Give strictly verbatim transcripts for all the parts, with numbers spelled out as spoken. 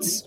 Let's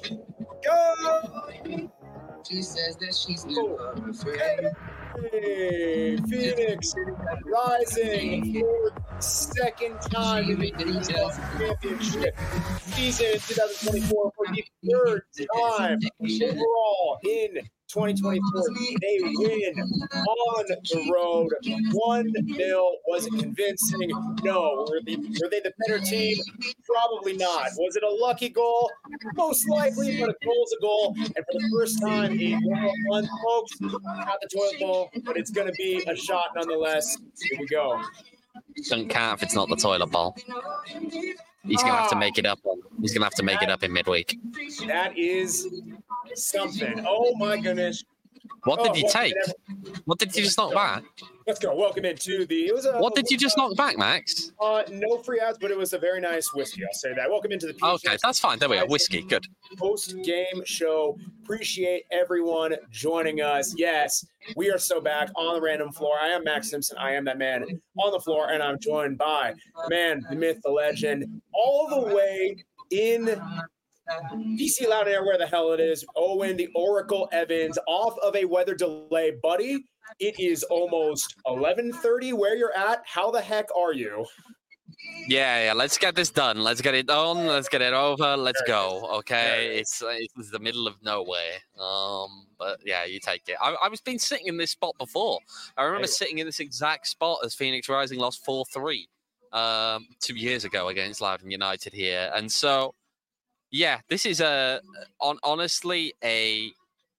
go. She says that she's never afraid. Hey, Phoenix Rising for the second time in the championship season twenty twenty-four for the third time overall in twenty twenty-four. They win on the road. one nil. Was it convincing? No. Were they, were they the better team? Probably not. Was it a lucky goal? Most likely, but a goal's a goal. And for the first time in one, folks, not the toilet bowl, but it's going to be a shot nonetheless. Here we go. Doesn't count if it's not the toilet bowl. He's gonna have to make it up. He's gonna have to make it up in midweek. That is something. Oh my goodness. What did oh, you take? What did you just knock back? Let's go. Welcome into the. It was a, what did you just knock back, Max? Uh, no free ads, but it was a very nice whiskey. I'll say that. Welcome into the. P H Okay, that's fine. There we go. Whiskey, good. Post game show. Appreciate everyone joining us. Yes, we are so back on the random floor. I am Max Simpson. I am that man on the floor, and I'm joined by the man, the myth, the legend, all the way in D C Loud Air, where the hell it is. Owen, the Oracle Evans, off of a weather delay, buddy. It is almost eleven thirty where you're at. How the heck are you? Yeah, yeah. Let's get this done. Let's get it on. Let's get it over. Let's go. Okay. It's it's the middle of nowhere. Um, but yeah, you take it. I, I was been sitting in this spot before. I remember sitting in this exact spot as Phoenix Rising lost four three um, two years ago against Loudoun United here, and so yeah, this is a on honestly a.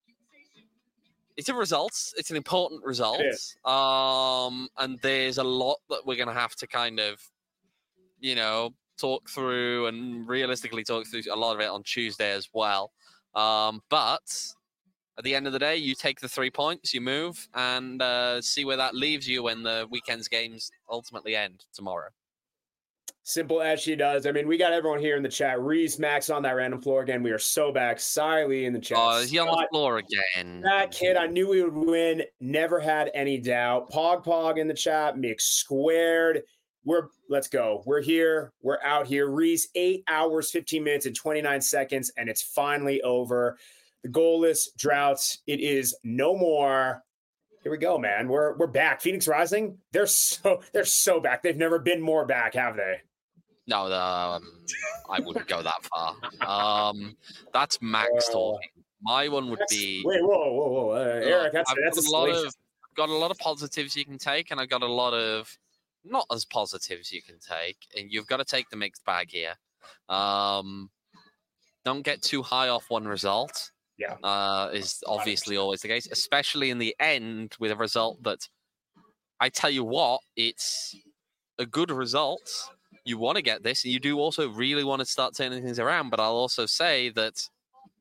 It's a result. It's an important result. Um, and there's a lot that we're going to have to kind of, you know, talk through and realistically talk through a lot of it on Tuesday as well. Um, but at the end of the day, you take the three points, you move, and uh, see where that leaves you when the weekend's games ultimately end tomorrow. Simple as she does. I mean, we got everyone here in the chat. Reese, Max on that random floor again. We are so back. Siley in the chat. Oh, is he on the floor again? That kid, I knew we would win. Never had any doubt. Pog Pog in the chat. Mix squared. We're let's go. We're here. We're out here. Reese, eight hours, fifteen minutes, and twenty-nine seconds, and it's finally over. The goalless droughts. It is no more. Here we go, man. We're we're back. Phoenix Rising. They're so they're so back. They've never been more back, have they? No, um, I wouldn't go that far. Um, that's Max uh, talking. My one would be. Wait, whoa, whoa, whoa, uh, Eric. That's, I've that's got a, a lot of. I've got a lot of positives you can take, and I've got a lot of not as positives you can take, and you've got to take the mixed bag here. Um, don't get too high off one result. Yeah, uh, is obviously always the case, especially in the end with a result that. I tell you what, it's a good result. You want to get this, and you do also really want to start turning things around. But I'll also say that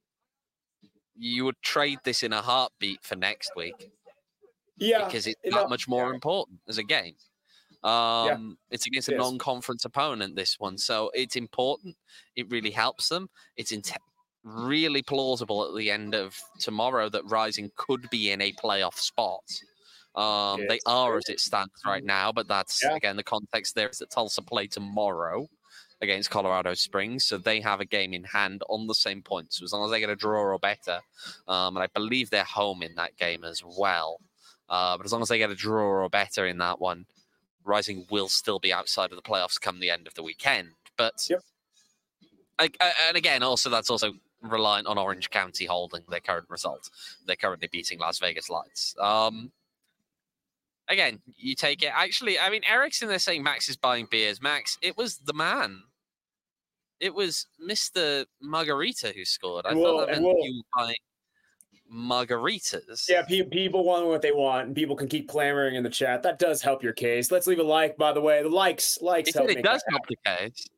you would trade this in a heartbeat for next week. Yeah. Because it's that know, much more yeah. important as a game. Um, yeah, it's against a it non-conference opponent, this one. So it's important. It really helps them. It's in- really plausible at the end of tomorrow that Rising could be in a playoff spot. Um, they are as it stands right now, but that's, yeah. again, the context there is that Tulsa play tomorrow against Colorado Springs, so they have a game in hand on the same points. So as long as they get a draw or better, um, and I believe they're home in that game as well, uh, but as long as they get a draw or better in that one, Rising will still be outside of the playoffs come the end of the weekend. But, yep. I, I, and again, also that's also reliant on Orange County holding their current result. They're currently beating Las Vegas Lights. Um, Again, you take it. Actually, I mean, Eric's in there saying Max is buying beers. Max, it was the man. It was Mister Margarita who scored. I we'll, thought that meant we'll, you were buying margaritas. Yeah, pe- people want what they want, and people can keep clamoring in the chat. That does help your case. Let's leave a like, by the way. The likes, likes it, help. It does help the case.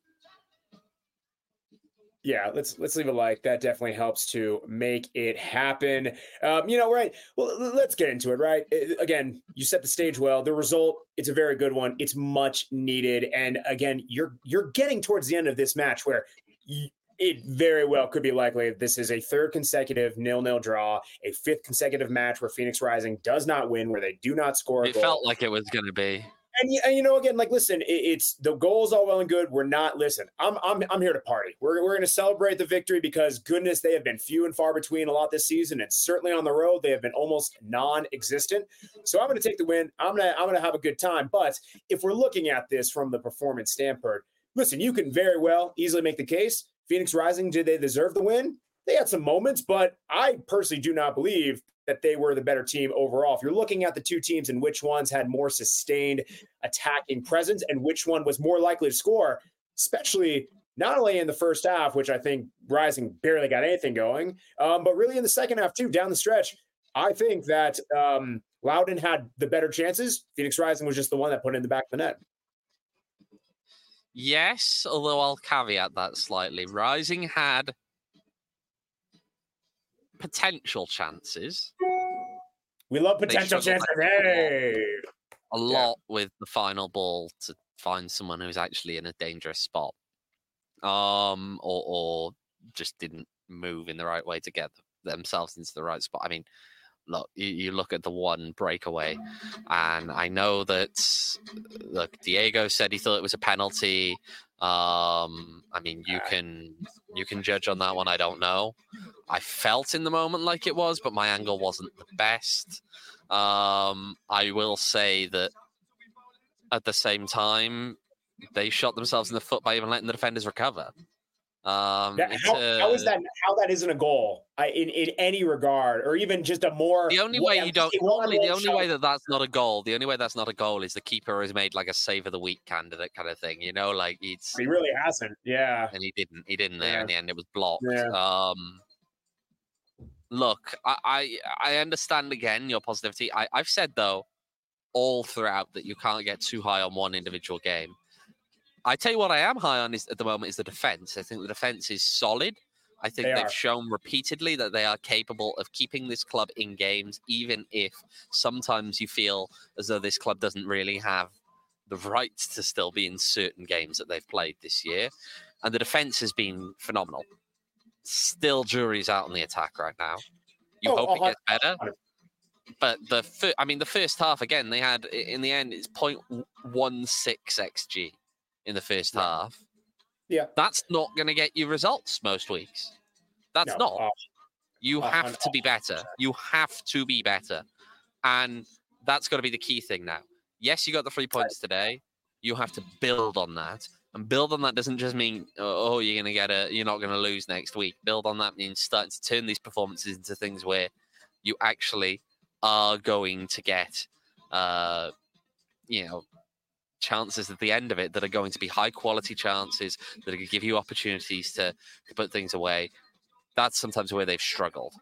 Yeah, let's let's leave a like. That definitely helps to make it happen. Um, you know, right? Well, let's get into it, right? It, again, you set the stage well. The result, it's a very good one. It's much needed. And again, you're you're getting towards the end of this match where you, it very well could be likely that this is a third consecutive nil-nil draw, a fifth consecutive match where Phoenix Rising does not win, where they do not score a It goal. felt like it was going to be. and, and you know, again, like, listen, it, it's the goals all well and good. We're not, listen, I'm I'm I'm here to party. We're we're going to celebrate the victory because, goodness, they have been few and far between a lot this season, and certainly on the road they have been almost non-existent. So I'm going to take the win. I'm gonna I'm gonna have a good time. But if we're looking at this from the performance standpoint, listen, you can very well easily make the case. Phoenix Rising, did they deserve the win? They had some moments, but I personally do not believe that they were the better team overall. If you're looking at the two teams and which ones had more sustained attacking presence and which one was more likely to score, especially not only in the first half, which I think Rising barely got anything going, um, but really in the second half too, down the stretch, I think that um, Loudoun had the better chances. Phoenix Rising was just the one that put it in the back of the net. Yes, although I'll caveat that slightly. Rising had potential chances. We love potential chances. Hey, a lot yeah. with the final ball to find someone who's actually in a dangerous spot, um, or, or just didn't move in the right way to get themselves into the right spot. I mean, look, you, you look at the one breakaway, and I know that, look, Diego said he thought it was a penalty. Um, I mean, you can you can judge on that one. I don't know. I felt in the moment like it was, but my angle wasn't the best. Um, I will say that at the same time, they shot themselves in the foot by even letting the defenders recover. Um, that, how, uh, how is that? How that isn't a goal I, in in any regard, or even just a more. The only way you don't. Normally, the only shot. way that that's not a goal. The only way that's not a goal is the keeper has made like a save of the week candidate kind of thing. You know, like it's. He really hasn't. Yeah. And he didn't. He didn't there yeah. in the end. It was blocked. Yeah. Um. Look, I, I I understand again your positivity. I I've said though, all throughout that you can't get too high on one individual game. I tell you what I am high on is at the moment is the defense. I think the defense is solid. I think they they've are. shown repeatedly that they are capable of keeping this club in games, even if sometimes you feel as though this club doesn't really have the right to still be in certain games that they've played this year. And the defense has been phenomenal. Still, jury's out on the attack right now. You oh, hope it gets better. one hundred percent. But the fir- I mean, the first half again, they had in the end it's point one six xG. In the first yeah. half. Yeah. That's not going to get you results most weeks. That's no, not. uh, you uh, have uh, to be better. You have to be better. And that's got to be the key thing now. Yes, you got the three points today. You have to build on that. And build on that doesn't just mean, oh, you're going to get a, you're not going to lose next week. Build on that means starting to turn these performances into things where you actually are going to get, uh, you know, chances at the end of it that are going to be high quality chances that are going to give you opportunities to, to put things away. That's sometimes where they've struggled.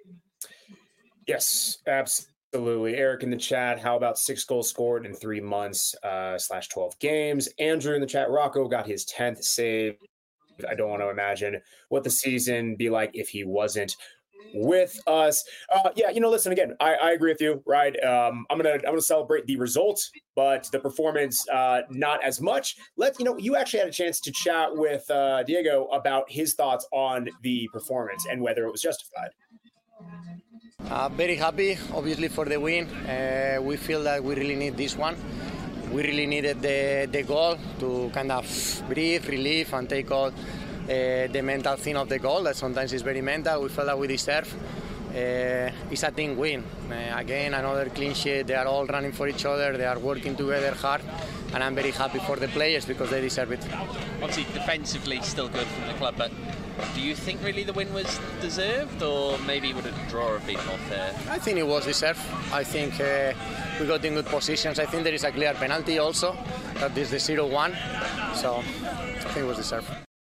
Yes, absolutely. Eric in the chat, how about six goals scored in three months uh, slash twelve games? Andrew in the chat, Rocco got his tenth save. I don't want to imagine what the season be like if he wasn't with us. Uh, yeah, you know, listen, again, I, I agree with you, right? Um, I'm gonna I'm gonna celebrate the results, but the performance, uh, not as much. Let you know, you actually had a chance to chat with uh, Diego about his thoughts on the performance and whether it was justified. Uh, very happy, obviously, for the win. Uh, we feel that we really need this one. We really needed the the goal to kind of breathe, relieve, and take out Uh, the mental thing of the goal that sometimes is very mental. We felt that we deserve. Uh, it's a team win. Uh, again, another clean sheet. They are all running for each other. They are working together hard, and I'm very happy for the players because they deserve it. Obviously, defensively still good from the club, but do you think really the win was deserved, or maybe would a draw have been more fair? I think it was deserved. I think uh, we got in good positions. I think there is a clear penalty also. That is the zero one. So I think it was deserved.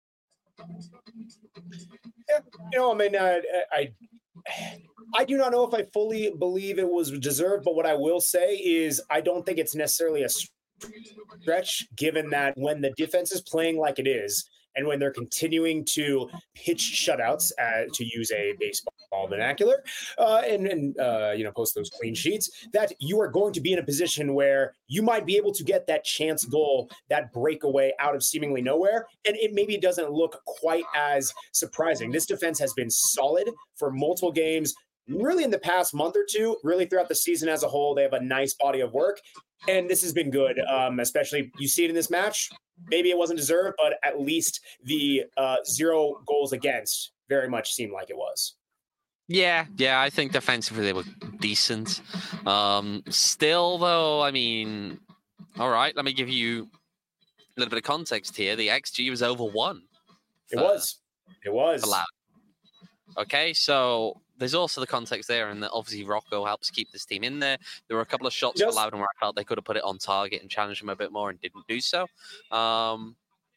Yeah, you know, I mean, I, I, I do not know if I fully believe it was deserved, but what I will say is I don't think it's necessarily a stretch, given that when the defense is playing like it is, and when they're continuing to pitch shutouts, uh, to use a baseball vernacular, uh, and, and uh, you know, post those clean sheets, that you are going to be in a position where you might be able to get that chance goal, that breakaway out of seemingly nowhere, and it maybe doesn't look quite as surprising. This defense has been solid for multiple games, really in the past month or two, really throughout the season as a whole, they have a nice body of work. And this has been good, um, especially you see it in this match. Maybe it wasn't deserved, but at least the uh, zero goals against very much seemed like it was. Yeah, yeah, I think defensively they were decent. Um, still, though, I mean, all right, let me give you a little bit of context here. The X G was over one. It was. It was. Allowed. Okay, so there's also the context there, and that obviously Rocco helps keep this team in there. There were a couple of shots for Loudoun where I felt they could have put it on target and challenged them a bit more and didn't do so. Um,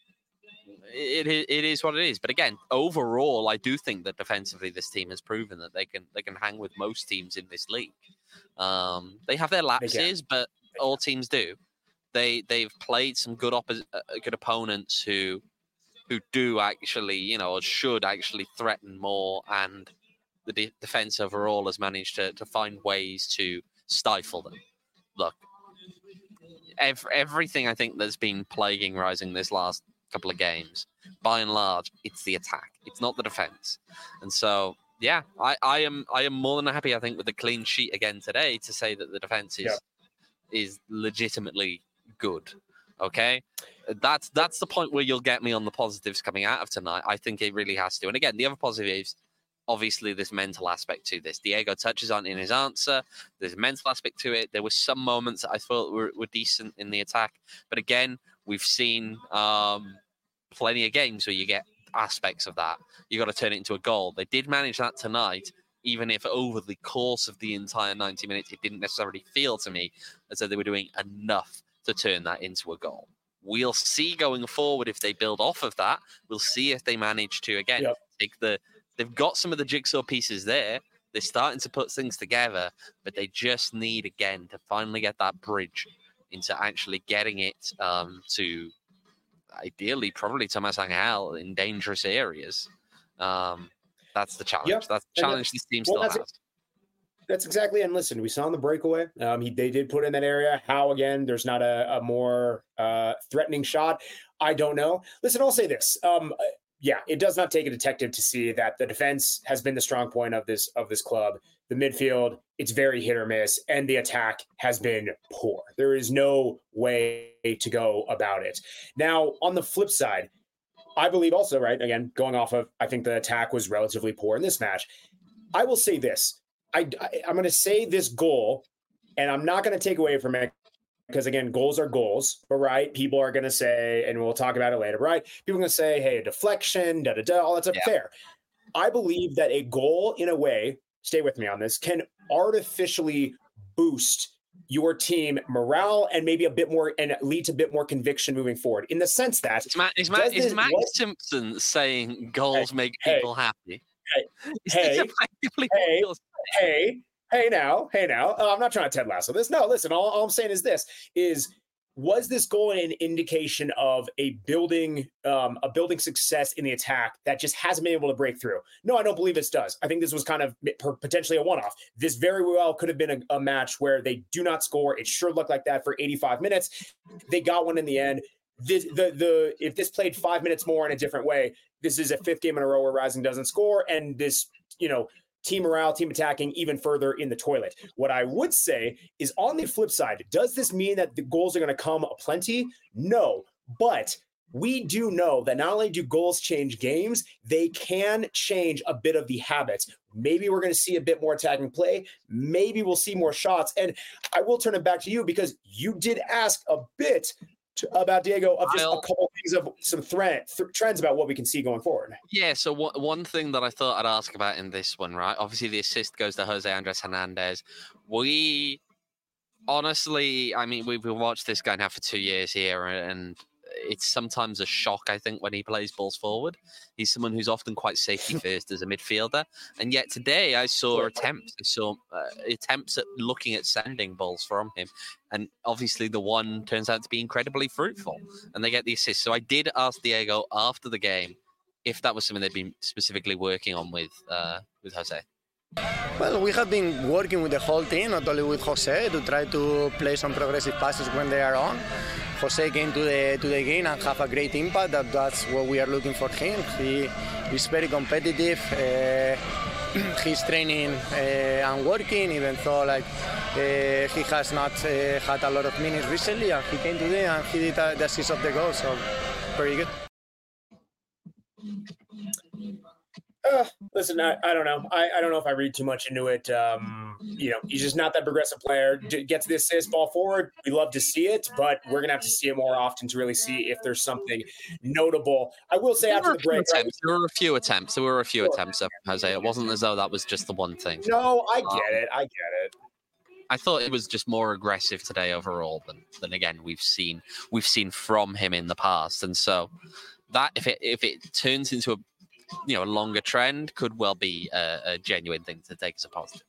it, it it is what it is. But again, overall, I do think that defensively this team has proven that they can they can hang with most teams in this league. Um, they have their lapses, but all teams do. They they've played some good oppo- uh, good opponents who who do actually, you know, or should actually threaten more, and the de- defense overall has managed to, to find ways to stifle them. Look, ev- everything I think that's been plaguing Rising this last couple of games, by and large, it's the attack. It's not the defense. And so, yeah, I, I am I am more than happy, I think, with the clean sheet again today to say that the defense is yep. is legitimately good. Okay, that's that's the point where you'll get me on the positives coming out of tonight. I think it really has to. And again, the other positives, obviously, this mental aspect to this. Diego touches on in his answer. There's a mental aspect to it. There were some moments that I thought were, were decent in the attack, but again, we've seen um, plenty of games where you get aspects of that. You got to turn it into a goal. They did manage that tonight, even if over the course of the entire ninety minutes, it didn't necessarily feel to me as though they were doing enough to turn that into a goal. We'll see going forward if they build off of that. We'll see if they manage to, again, yep. take the... They've got some of the jigsaw pieces there. They're starting to put things together, but they just need, again, to finally get that bridge into actually getting it um, to, ideally, probably Thomas Angel in dangerous areas. Um, that's the challenge. Yep. That's the challenge this team well, still has. That's exactly. And listen, we saw in the breakaway, um, he, they did put in that area. How, again, there's not a, a more uh, threatening shot. I don't know. Listen, I'll say this. Um, yeah, it does not take a detective to see that the defense has been the strong point of this of this club. The midfield, it's very hit or miss, and the attack has been poor. There is no way to go about it. Now, on the flip side, I believe also, right, again, going off of, I think the attack was relatively poor in this match. I will say this. I, I, I'm going to say this goal, and I'm not going to take away from it because, again, goals are goals, but right, people are going to say, and we'll talk about it later, right? People are going to say, hey, a deflection, da da da, all that's yeah. fair. I believe that a goal, in a way, stay with me on this, can artificially boost your team morale and maybe a bit more and lead to a bit more conviction moving forward. In the sense that is Matt, is Matt, is Matt Simpson saying goals hey, make people hey, happy? Hey, hey, hey, hey, hey now, hey now. Uh, I'm not trying to Ted Lasso this. No, listen, all, all I'm saying is this, is was this goal an indication of a building um, a building success in the attack that just hasn't been able to break through? No, I don't believe this does. I think this was kind of potentially a one-off. This very well could have been a, a match where they do not score. It sure looked like that for eighty-five minutes. They got one in the end. This, the the if this played five minutes more in a different way, this is a fifth game in a row where Rising doesn't score, and this, you know, team morale, team attacking even further in the toilet. What I would say is, on the flip side, does this mean that the goals are going to come aplenty? No, but we do know that not only do goals change games, they can change a bit of the habits. Maybe we're going to see a bit more attacking play. Maybe we'll see more shots. And I will turn it back to you because you did ask a bit about Diego of just I'll, a couple of things of some threat, th- trends about what we can see going forward. Yeah, so w- one thing that I thought I'd ask about in this one, right? Obviously, the assist goes to Jose Andres Hernandez. We honestly, I mean, we've watched this guy now for two years here, and it's sometimes a shock, I think, when he plays balls forward. He's someone who's often quite safety first as a midfielder. And yet today I saw attempts. I saw uh, attempts at looking at sending balls from him. And obviously the one turns out to be incredibly fruitful. And they get the assist. So I did ask Diego after the game if that was something they'd been specifically working on with uh, with Jose. Well, we have been working with the whole team, not only with Jose, to try to play some progressive passes when they are on. Jose came to the to the game and have a great impact. That that's what we are looking for him. He is very competitive. Uh, he's training uh, and working, even though like uh, he has not uh, had a lot of minutes recently. And he came today and he did uh, the assist of the goal. So very good. Uh, listen, I, I don't know. I, I don't know if I read too much into it. Um, you know, he's just not that progressive player. D- gets the assist, ball forward. We love to see it, but we're gonna have to see it more often to really see if there's something notable. I will say there after were the break, attempts. right? There were a few attempts. There were a few attempts, Jose. It wasn't as though that was just the one thing. No, I get it. I get it. I thought it was just more aggressive today overall than than again we've seen we've seen from him in the past, and so that if it if it turns into a you know a longer trend, could well be a, a genuine thing to take as a positive.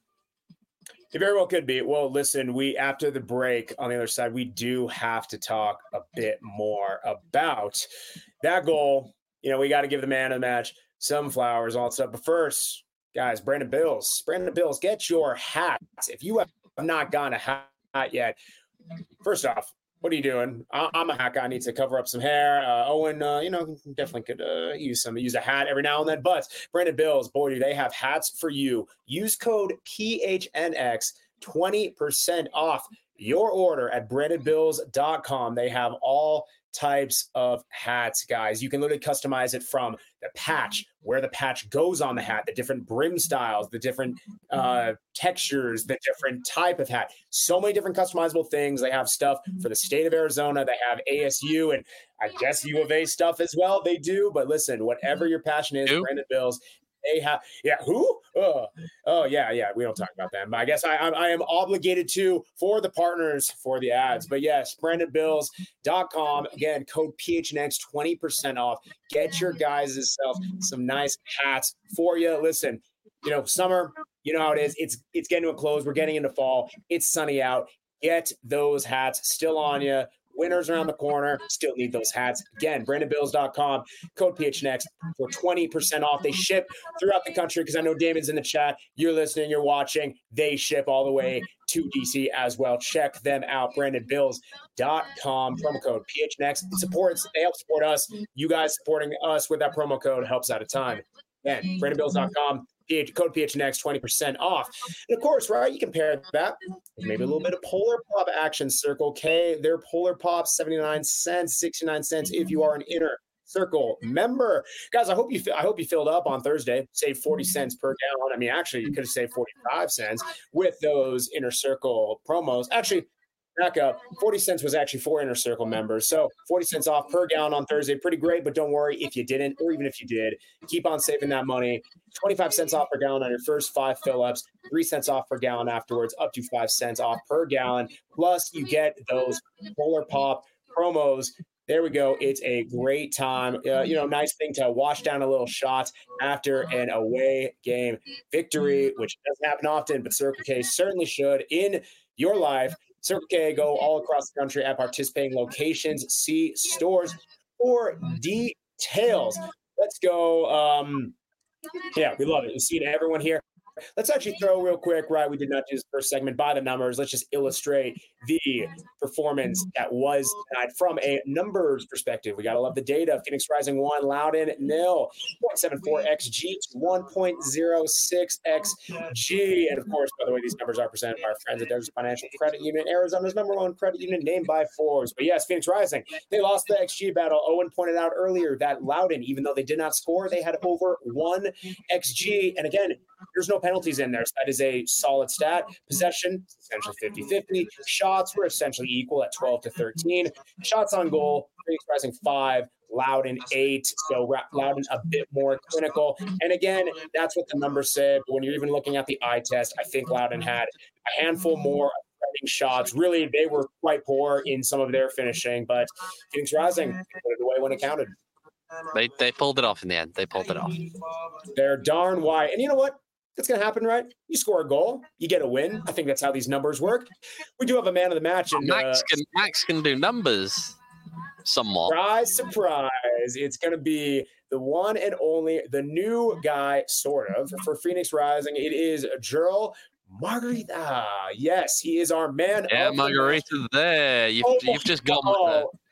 It very well could be. Well, listen, we after the break on the other side, we do have to talk a bit more about that goal. You know, we got to give the man of the match some flowers, all that stuff. But first, guys, Brandon Bills, Brandon Bills, get your hats. If you have not gotten a hat yet, first off, what are you doing? I'm a hat guy. I need to cover up some hair. Uh, Owen, uh, you know, definitely could uh, use some, use a hat every now and then. But Brandon Bills, boy, do they have hats for you. Use code P H N X, twenty percent off your order at brandon bills dot com. They have all types of hats, guys. You can literally customize it from the patch, where the patch goes on the hat, the different brim styles, the different uh, textures, the different type of hat. So many different customizable things. They have stuff for the state of Arizona. They have A S U and I guess U of A stuff as well. They do. But listen, whatever your passion is, Who? Brandon Bills, they have, yeah, who? Oh, oh, yeah, yeah. We don't talk about them. But I guess I, I, I am obligated to for the partners for the ads. But yes, brandon bills dot com. Again, code P H N X, twenty percent off. Get your guys' self some nice hats for you. Listen, you know, summer, you know how it is. It's it's getting to a close. We're getting into fall. It's sunny out. Get those hats still on you. Winter's around the corner. Still need those hats. Again, brandon bills dot com, code P H N X for twenty percent off. They ship throughout the country because I know David's in the chat. You're listening, you're watching. They ship all the way to D C as well. Check them out, brandon bills dot com, promo code P H N X. It supports, they help support us. You guys supporting us with that promo code helps out a ton. Again, brandon bills dot com. Code P H N X, twenty percent off. And of course, right, you can pair that with maybe a little bit of Polar Pop action. Circle K, their Polar Pop, seventy-nine cents, sixty-nine cents if you are an Inner Circle member. Guys, I hope you I hope you filled up on Thursday. Save forty cents per gallon. I mean, actually, you could have saved forty-five cents with those Inner Circle promos. Actually, back up, forty cents was actually for Inner Circle members. So forty cents off per gallon on Thursday. Pretty great, but don't worry if you didn't, or even if you did, keep on saving that money. twenty-five cents off per gallon on your first five fill-ups, three cents off per gallon afterwards, up to five cents off per gallon. Plus, you get those Polar Pop promos. There we go. It's a great time. Uh, you know, nice thing to wash down a little shot after an away game victory, which doesn't happen often, but Circle K certainly should in your life. Circle K, go all across the country at participating locations. See stores for details. Let's go. Um, yeah, we love it. We've seen everyone here. Let's actually throw real quick, right? We did not do this first segment by the numbers. Let's just illustrate the performance that was tonight from a numbers perspective. We got to love the data. Phoenix Rising one, Loudon nil, zero point seven four X G to one point zero six X G. And of course, by the way, these numbers are presented by our friends at Desert Financial Credit Union, Arizona's number one credit union, named by Forbes. But yes, Phoenix Rising, they lost the X G battle. Owen pointed out earlier that Loudon, even though they did not score, they had over one X G. And again, there's no penalties in there. So that is a solid stat. Possession, essentially fifty-fifty. Shots were essentially equal at twelve to thirteen. Shots on goal, Phoenix Rising five, Loudon eight. So Loudon a bit more clinical. And again, that's what the numbers said. But when you're even looking at the eye test, I think Loudon had a handful more shots. Really, they were quite poor in some of their finishing. But Phoenix Rising put it away when it counted. They they pulled it off in the end. They pulled it off. They're darn wide. And you know what? That's going to happen, right? You score a goal, you get a win. I think that's how these numbers work. We do have a man of the match. And, Max, uh, can, Max can do numbers somewhat. Surprise, surprise. It's going to be the one and only, the new guy, sort of, for Phoenix Rising. It is Gerald Margarita. Yes, he is our man. Yeah, of Margarita the there. You've, oh, you've just got oh,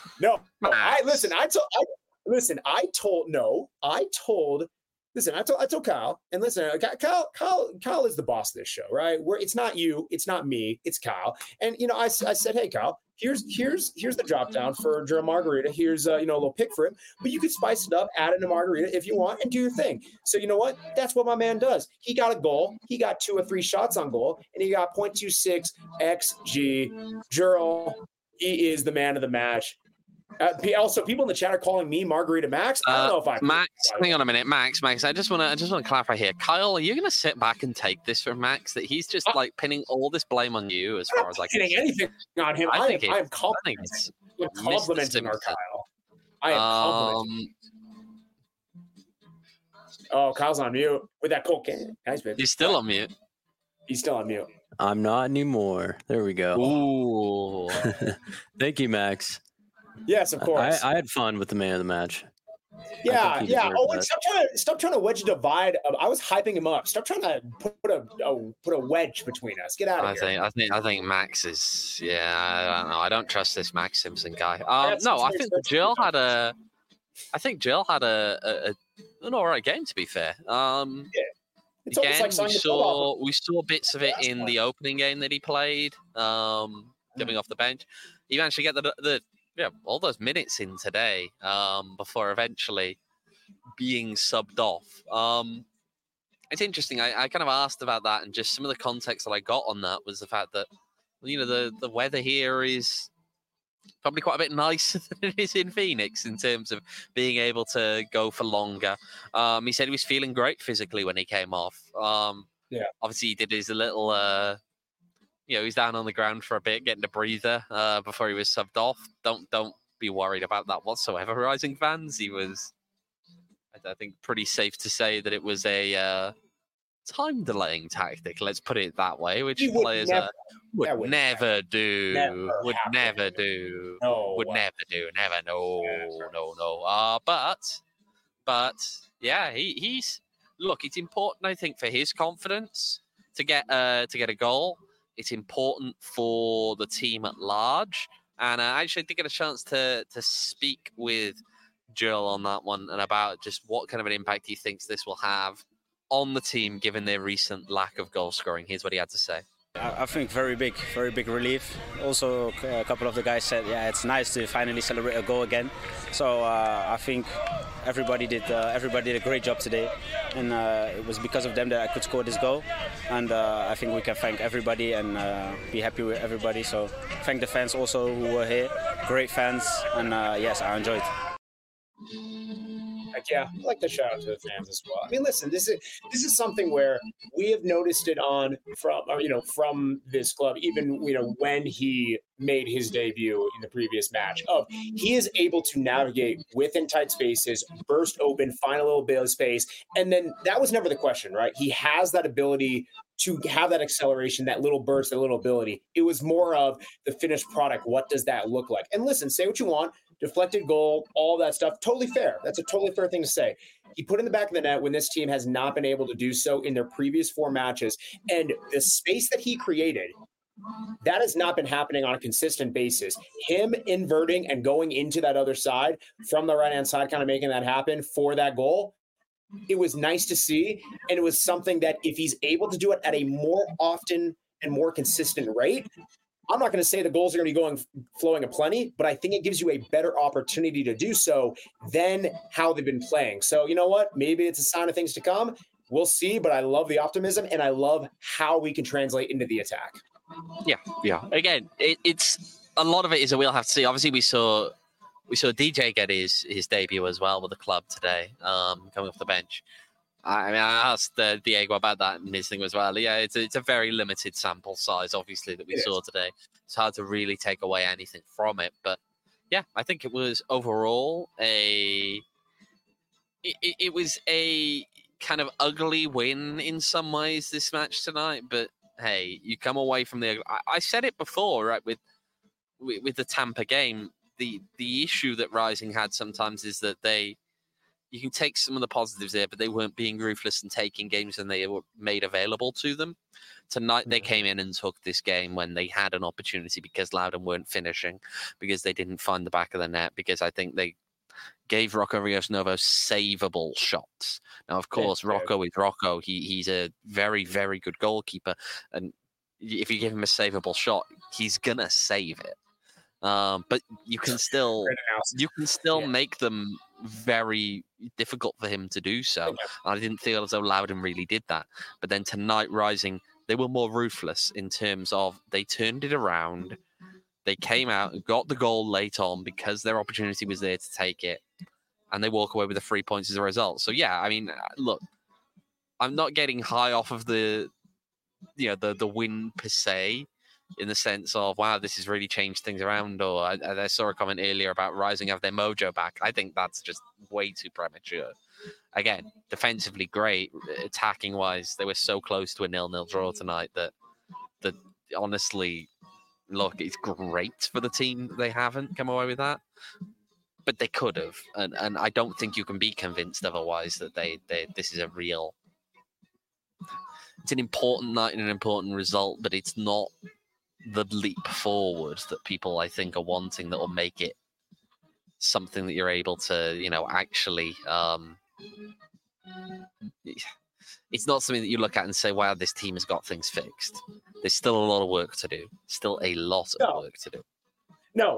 No, Max. I listen. I told. I, listen, I told. No, I told. Listen, I told. I told Kyle. And listen, Kyle. Kyle. Kyle is the boss of this show, right? Where it's not you, it's not me, it's Kyle. And you know, I, I said, hey, Kyle. Here's here's here's the drop down for Gerald Margarita. Here's uh, you know a little pick for him, but you could spice it up, add in a margarita if you want, and do your thing. So you know what? That's what my man does. He got a goal. He got two or three shots on goal, and he got point two six X G. Gerald, he is the man of the match. Uh, also, people in the chat are calling me Margarita Max. I don't Uh, know if I Max, hang on a minute, Max. Max, I just want to, I just want to clarify here. Kyle, are you going to sit back and take this from Max that he's just Uh, like pinning all this blame on you? As I'm far not as like, hitting anything on him. I I, think am, it- I am I complimenting, think it's I'm complimenting our Mister Simpson. Kyle. I am complimenting. um, Oh, Kyle's on mute with that cocaine. Nice, baby. he's still on mute. He's still on mute. I'm not anymore. There we go. Ooh, Thank you, Max. Yes, of course. I, I had fun with the man of the match. yeah, think he yeah. deserved Oh, wait, that. stop trying to stop trying to wedge a divide. I was hyping him up. Stop trying to put a, a put a wedge between us. Get out of I here. think, I think, I think Max is. Yeah, I don't know. I don't trust this Max Simpson guy. Um, That's- no, I that's- think that's- Jill had a. I think Jill had a, a, a an all right game. To be fair, um, It's almost again, like we signing the club offer. saw we saw bits of it Last in one. the opening game that he played, um, coming off the bench. He managed to get the the yeah all those minutes in today, um, before eventually being subbed off. Um, it's interesting. I, I kind of asked about that, and just some of the context that I got on that was the fact that you know the the weather here is probably quite a bit nicer than it is in Phoenix in terms of being able to go for longer. Um, he said he was feeling great physically when he came off. Um, Yeah. Obviously, he did his little, uh, you know, he's down on the ground for a bit, getting a breather uh, before he was subbed off. Don't don't be worried about that whatsoever, Rising fans. He was, I, I think, pretty safe to say that it was a uh, time delaying tactic. Let's put it that way, which He would players never- uh, would that would never do. never would happen. never do. No. Would never do. Never. No. No. No. Uh, but, but yeah, he, he's look. It's important, I think, for his confidence to get uh to get a goal. It's important for the team at large, and uh, I actually did get a chance to to speak with Jill on that one and about just what kind of an impact he thinks this will have on the team given their recent lack of goal scoring. Here's what he had to say. I I think very big, very big relief. Also, a couple of the guys said, yeah, it's nice to finally celebrate a goal again. So uh, I think everybody did uh, everybody did a great job today, and uh, it was because of them that I could score this goal. And uh, I think we can thank everybody and uh, be happy with everybody. So thank the fans also who were here, great fans, and uh, yes, I enjoyed. Heck yeah, I like to shout out to the fans as well. I mean, listen, this is this is something where we have noticed it on from or, you know from this club, even you know when he made his debut in the previous match. Of he is able to navigate within tight spaces, burst open, find a little bit of space, and then that was never the question, right? He has that ability to have that acceleration, that little burst, that little ability. It was more of the finished product. What does that look like? And listen, say what you want. Deflected goal, all that stuff, totally fair. That's a totally fair thing to say. He put in the back of the net when this team has not been able to do so in their previous four matches. And the space that he created, that has not been happening on a consistent basis. Him inverting and going into that other side from the right-hand side, kind of making that happen for that goal, it was nice to see. And it was something that if he's able to do it at a more often and more consistent rate, I'm not going to say the goals are going to be going flowing aplenty, but I think it gives you a better opportunity to do so than how they've been playing. So you know what? Maybe it's a sign of things to come. We'll see, but I love the optimism and I love how we can translate into the attack. Yeah, yeah. Again, it, it's a lot of it is that we'll have to see. Obviously, we saw we saw D J get his his debut as well with the club today, um, coming off the bench. I mean, I asked uh, Diego about that in his thing as well. Yeah, it's a, it's a very limited sample size, obviously, that we It saw is. today. It's hard to really take away anything from it. But yeah, I think it was overall a it, it, it was a kind of ugly win in some ways this match tonight. But hey, you come away from the. I, I said it before, right? With, with with the Tampa game, the the issue that Rising had sometimes is that they. you can take some of the positives there, but they weren't being ruthless and taking games and they were made available to them. Tonight, they came in and took this game when they had an opportunity because Loudon weren't finishing, because they didn't find the back of the net, because I think they gave Rocco Rios Novo savable shots. Now, of course, Rocco is Rocco. He he's a very, very good goalkeeper. And if you give him a savable shot, he's going to save it. Um, but you can still you can still yeah. make them very difficult for him to do so. Okay. I didn't feel as though Loudon really did that. But then tonight, Rising, they were more ruthless in terms of they turned it around. They came out and got the goal late on because their opportunity was there to take it. And they walk away with the three points as a result. So, yeah, I mean, look, I'm not getting high off of the, you know, the, the win per se, in the sense of, wow, this has really changed things around. Or I, I saw a comment earlier about Rising have their mojo back. I think that's just way too premature. Again, defensively great. Attacking-wise, they were so close to a nil-nil draw tonight that, that honestly, look, it's great for the team that they haven't come away with that. But they could have. And, and I don't think you can be convinced otherwise that they, they this is a real... It's an important night and an important result, but it's not the leap forward that people, I think, are wanting that will make it something that you're able to, you know, actually... Um, it's not something that you look at and say, wow, this team has got things fixed. There's still a lot of work to do. Still a lot of no. work to do. No.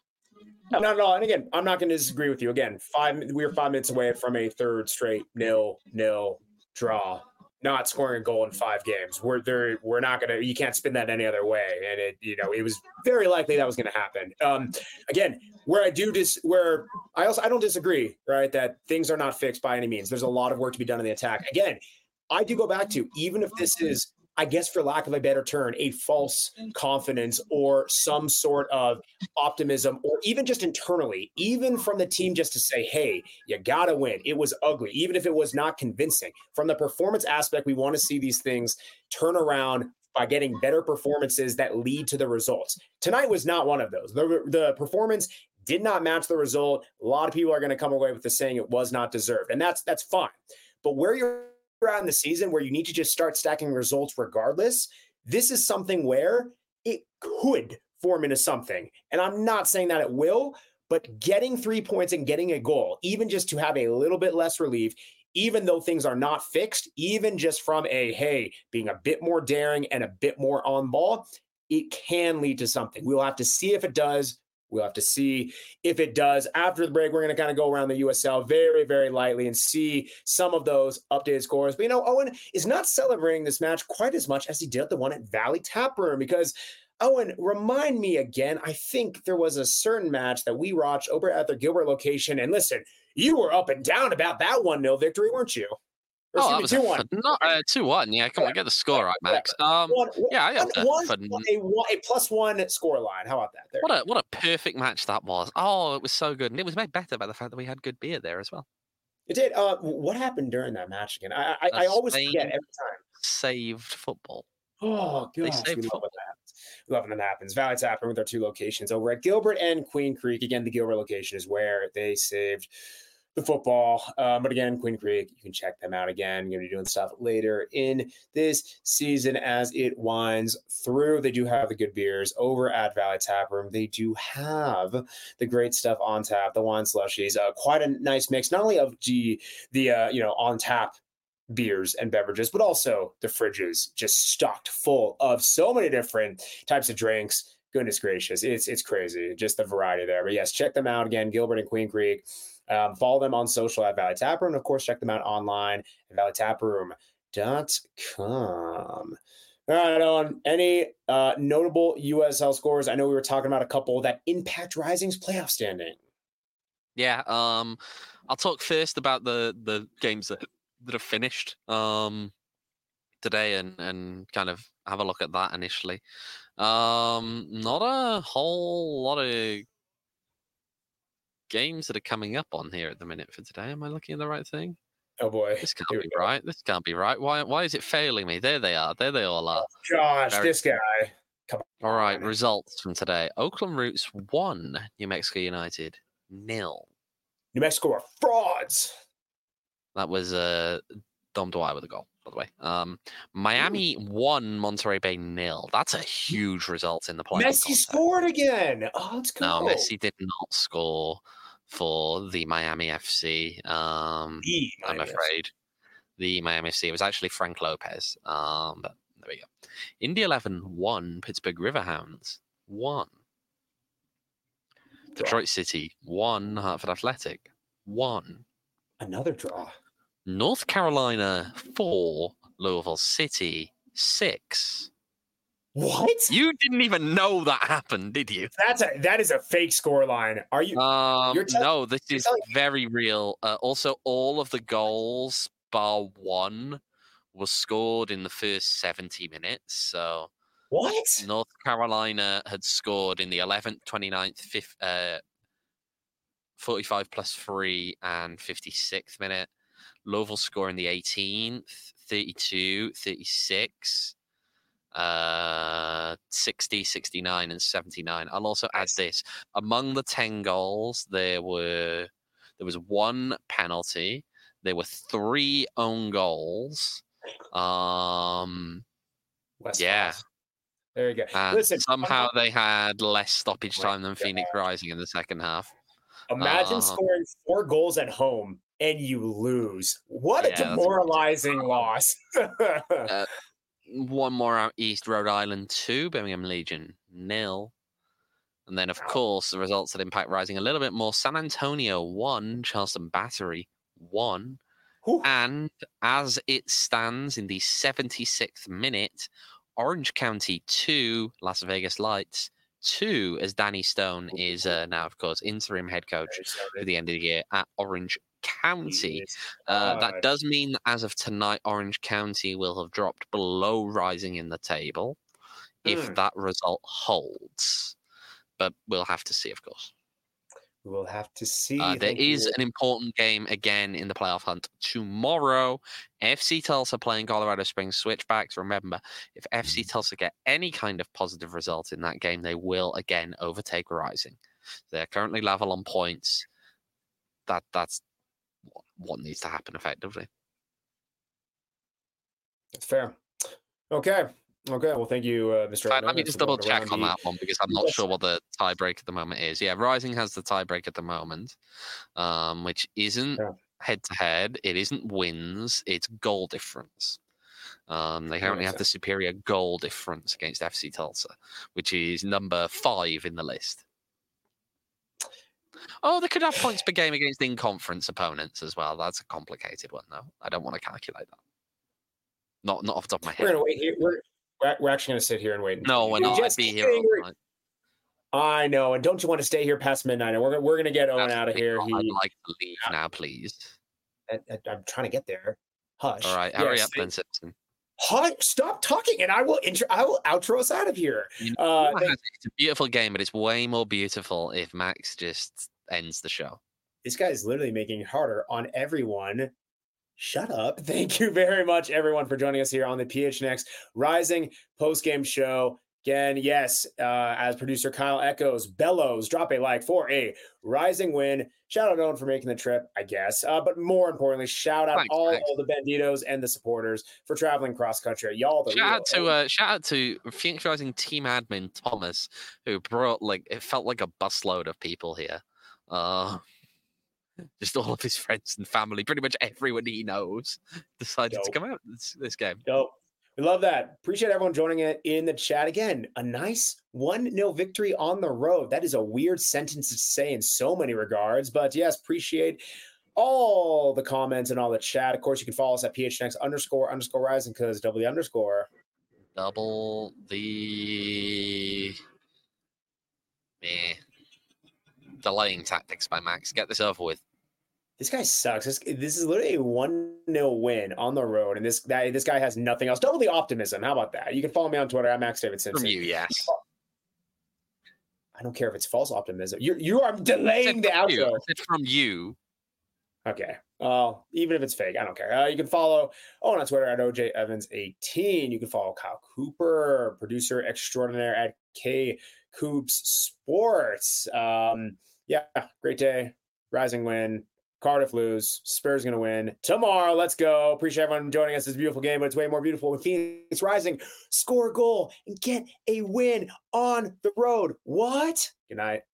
No, not at all. And again, I'm not going to disagree with you. Again, five we're five minutes away from a third straight nil nil draw. Not scoring a goal in five games. We're there. We're not gonna. You can't spin that any other way. And it, you know, it was very likely that was going to happen. Um, again, where I do dis, where I also I don't disagree, right? That things are not fixed by any means. There's a lot of work to be done in the attack. Again, I do go back to, even if this is, I guess, for lack of a better term, a false confidence or some sort of optimism, or even just internally, even from the team, just to say, hey, you got to win. It was ugly, even if it was not convincing. From the performance aspect, we want to see these things turn around by getting better performances that lead to the results. Tonight was not one of those. The, the performance did not match the result. A lot of people are going to come away with the saying it was not deserved, and that's that's fine. But where you're out in the season, where you need to just start stacking results regardless, this is something where it could form into something. And I'm not saying that it will, but getting three points and getting a goal, even just to have a little bit less relief, even though things are not fixed, even just from a, hey, being a bit more daring and a bit more on ball, it can lead to something. We'll have to see if it does. We'll have to see if it does. After the break, we're going to kind of go around the U S L very, very lightly and see some of those updated scores. But, you know, Owen is not celebrating this match quite as much as he did at the one at Valley Tap Room, because, Owen, remind me again, I think there was a certain match that we watched over at the Gilbert location. And listen, you were up and down about that one nil victory, weren't you? Or, oh, that was two one. Not uh, two one. Yeah, come yeah. on, get the score right, Max. Um, one, one, yeah, I got one, one, a, a plus one score line. How about that? There. What a what a perfect match that was. Oh, it was so good, and it was made better by the fact that we had good beer there as well. It did. Uh, what happened during that match again? I I, I always forget every time. Saved football. Oh, gosh, we love when that happens. We love when that happens. Valley Tap Room with our two locations over at Gilbert and Queen Creek. Again, the Gilbert location is where they saved the football. Um, but again, Queen Creek, you can check them out again. You're going to be doing stuff later in this season as it winds through. They do have the good beers over at Valley Tap Room. They do have the great stuff on tap, the wine slushies, uh, quite a nice mix, not only of the, the uh, you know, on tap beers and beverages, but also the fridges just stocked full of so many different types of drinks. Goodness gracious. It's, it's crazy. Just the variety there. But yes, check them out again, Gilbert and Queen Creek. Um, follow them on social at Valley Tap Room. And of course, check them out online at valley tap room dot com. All right, on any uh, notable U S L scores? I know we were talking about a couple that impact Rising's playoff standing. Yeah, um, I'll talk first about the, the games that, that have finished um, today and, and kind of have a look at that initially. Um, not a whole lot of games that are coming up on here at the minute for today. Am I looking at the right thing? Oh boy, this can't be right. This can't be right. Why? Why is it failing me? There they are. There they all are. Oh, gosh, Very... this guy. Come on. All right, results from today. Oakland Roots one, New Mexico United nil. New Mexico are frauds. That was uh, Dom Dwyer with a goal, by the way. Um, Miami won, Monterey Bay nil. That's a huge result in the playoff. Messi context. scored again. Oh, let's go. No, Messi did not score for the Miami F C. Um, The I'm Miami afraid. The Miami F C. It was actually Frank Lopez. Um, but there we go. Indy eleven won, Pittsburgh Riverhounds one. Detroit City one, Hartford Athletic one. Another draw. North Carolina four, Louisville City six. What? You didn't even know that happened, did you? That's a that is a fake score line. Are you? Um, You're tell- no, this you're is telling- very real. Uh, also, all of the goals, bar one, was scored in the first seventy minutes. So What? North Carolina had scored in the eleventh, twenty-ninth, fifth, uh, forty-five plus three, and fifty-sixth minute. Louisville score in the eighteenth, thirty-two, thirty-six, uh, sixty, sixty-nine, and seventy-nine. I'll also add this. Among the ten goals, there were there was one penalty. There were three own goals. Um, West yeah. Coast. There you go. And Listen, somehow they had less stoppage Oh time my than Phoenix Rising in the second half. imagine uh, scoring four goals at home and you lose. What Yeah, a that's demoralizing loss. Uh, one more out east, Rhode Island two, Birmingham Legion nil. And then, of course, the results that impact Rising a little bit more. San Antonio one, Charleston Battery one. Whew. And as it stands in the seventy-sixth minute, Orange County two, Las Vegas Lights two, as Danny Stone is uh, now, of course, interim head coach for the end of the year at Orange County. Uh, that does mean that as of tonight, Orange County will have dropped below Rising in the table if Mm. that result holds. But we'll have to see, of course. We'll have to see. Uh, there Thank is you. an important game again in the playoff hunt tomorrow. F C Tulsa playing Colorado Springs Switchbacks. Remember, if F C Tulsa get any kind of positive result in that game, they will again overtake Rising. They're currently level on points. That that's what, what needs to happen effectively. That's fair. Okay. Okay. Well, thank you, uh, Mister Fine, Edmund. let me That's just double going check around on the- that one because I'm not Yes. sure what the tiebreak at the moment is. Yeah, Rising has the tiebreak at the moment, um, which isn't Yeah. head to head. It isn't wins. It's goal difference. Um, they currently makes have the superior goal difference against F C Tulsa, which is number five in the list. Oh, they could have points per game against in-conference opponents as well. That's a complicated one, though. I don't want to calculate that. Not not off the top of my We're head. gonna wait here. We're we're we're actually gonna sit here and wait. No, we're You're not. I'd just be here all angry. night. I know, and don't you want to stay here past midnight? And we're gonna we're gonna get Owen out of Absolutely here. not. He, I'd like to leave now, please. I, I, I'm trying to get there. Hush. All right, hurry Yes, up, Ben Simpson. Hush, stop talking, and I will intro. I will outro us out of here. You know, Uh, what thank- has- it's a beautiful game, but it's way more beautiful if Max just ends the show. this guy is literally making it harder on everyone. Shut up. Thank you very much, everyone, for joining us here on the P H N X Rising post-game show. Again, yes, uh, as producer Kyle echoes, bellows, drop a like for a Rising win. Shout out Owen for making the trip, I guess. Uh, but more importantly, shout out Thanks, all, thanks. all the Banditos and the supporters for traveling cross-country. Y'all the Shout out to real- uh, shout out to Phoenix Rising team admin Thomas, who brought like it felt like a busload of people here. Uh, just all of his friends and family, pretty much everyone he knows, decided to Dope. come out this, this game. Dope. We love that. Appreciate everyone joining it in the chat. Again, a nice one nil victory on the road. That is a weird sentence to say in so many regards. But yes, appreciate all the comments and all the chat. Of course, you can follow us at P H N X underscore underscore rising because double the underscore. Double the eh, delaying tactics by Max. Get this over with. This guy sucks. This, this is literally a one nil win on the road. And this guy, this guy has nothing else. Double the optimism. How about that? You can follow me on Twitter at Max David Simpson. From you, yes. I don't care if it's false optimism. You you are delaying the From you. outro. I said from you. Okay. Well, even if it's fake, I don't care. Uh, you can follow Owen on Twitter at O J Evans eighteen. You can follow Kyle Cooper, producer extraordinaire at K Coops Sports. Um, yeah, great day. Rising win. Cardiff lose. Spurs going to win. Tomorrow, let's go. Appreciate everyone joining us this beautiful game, but it's way more beautiful when Phoenix Rising score a goal and get a win on the road. What? Good night.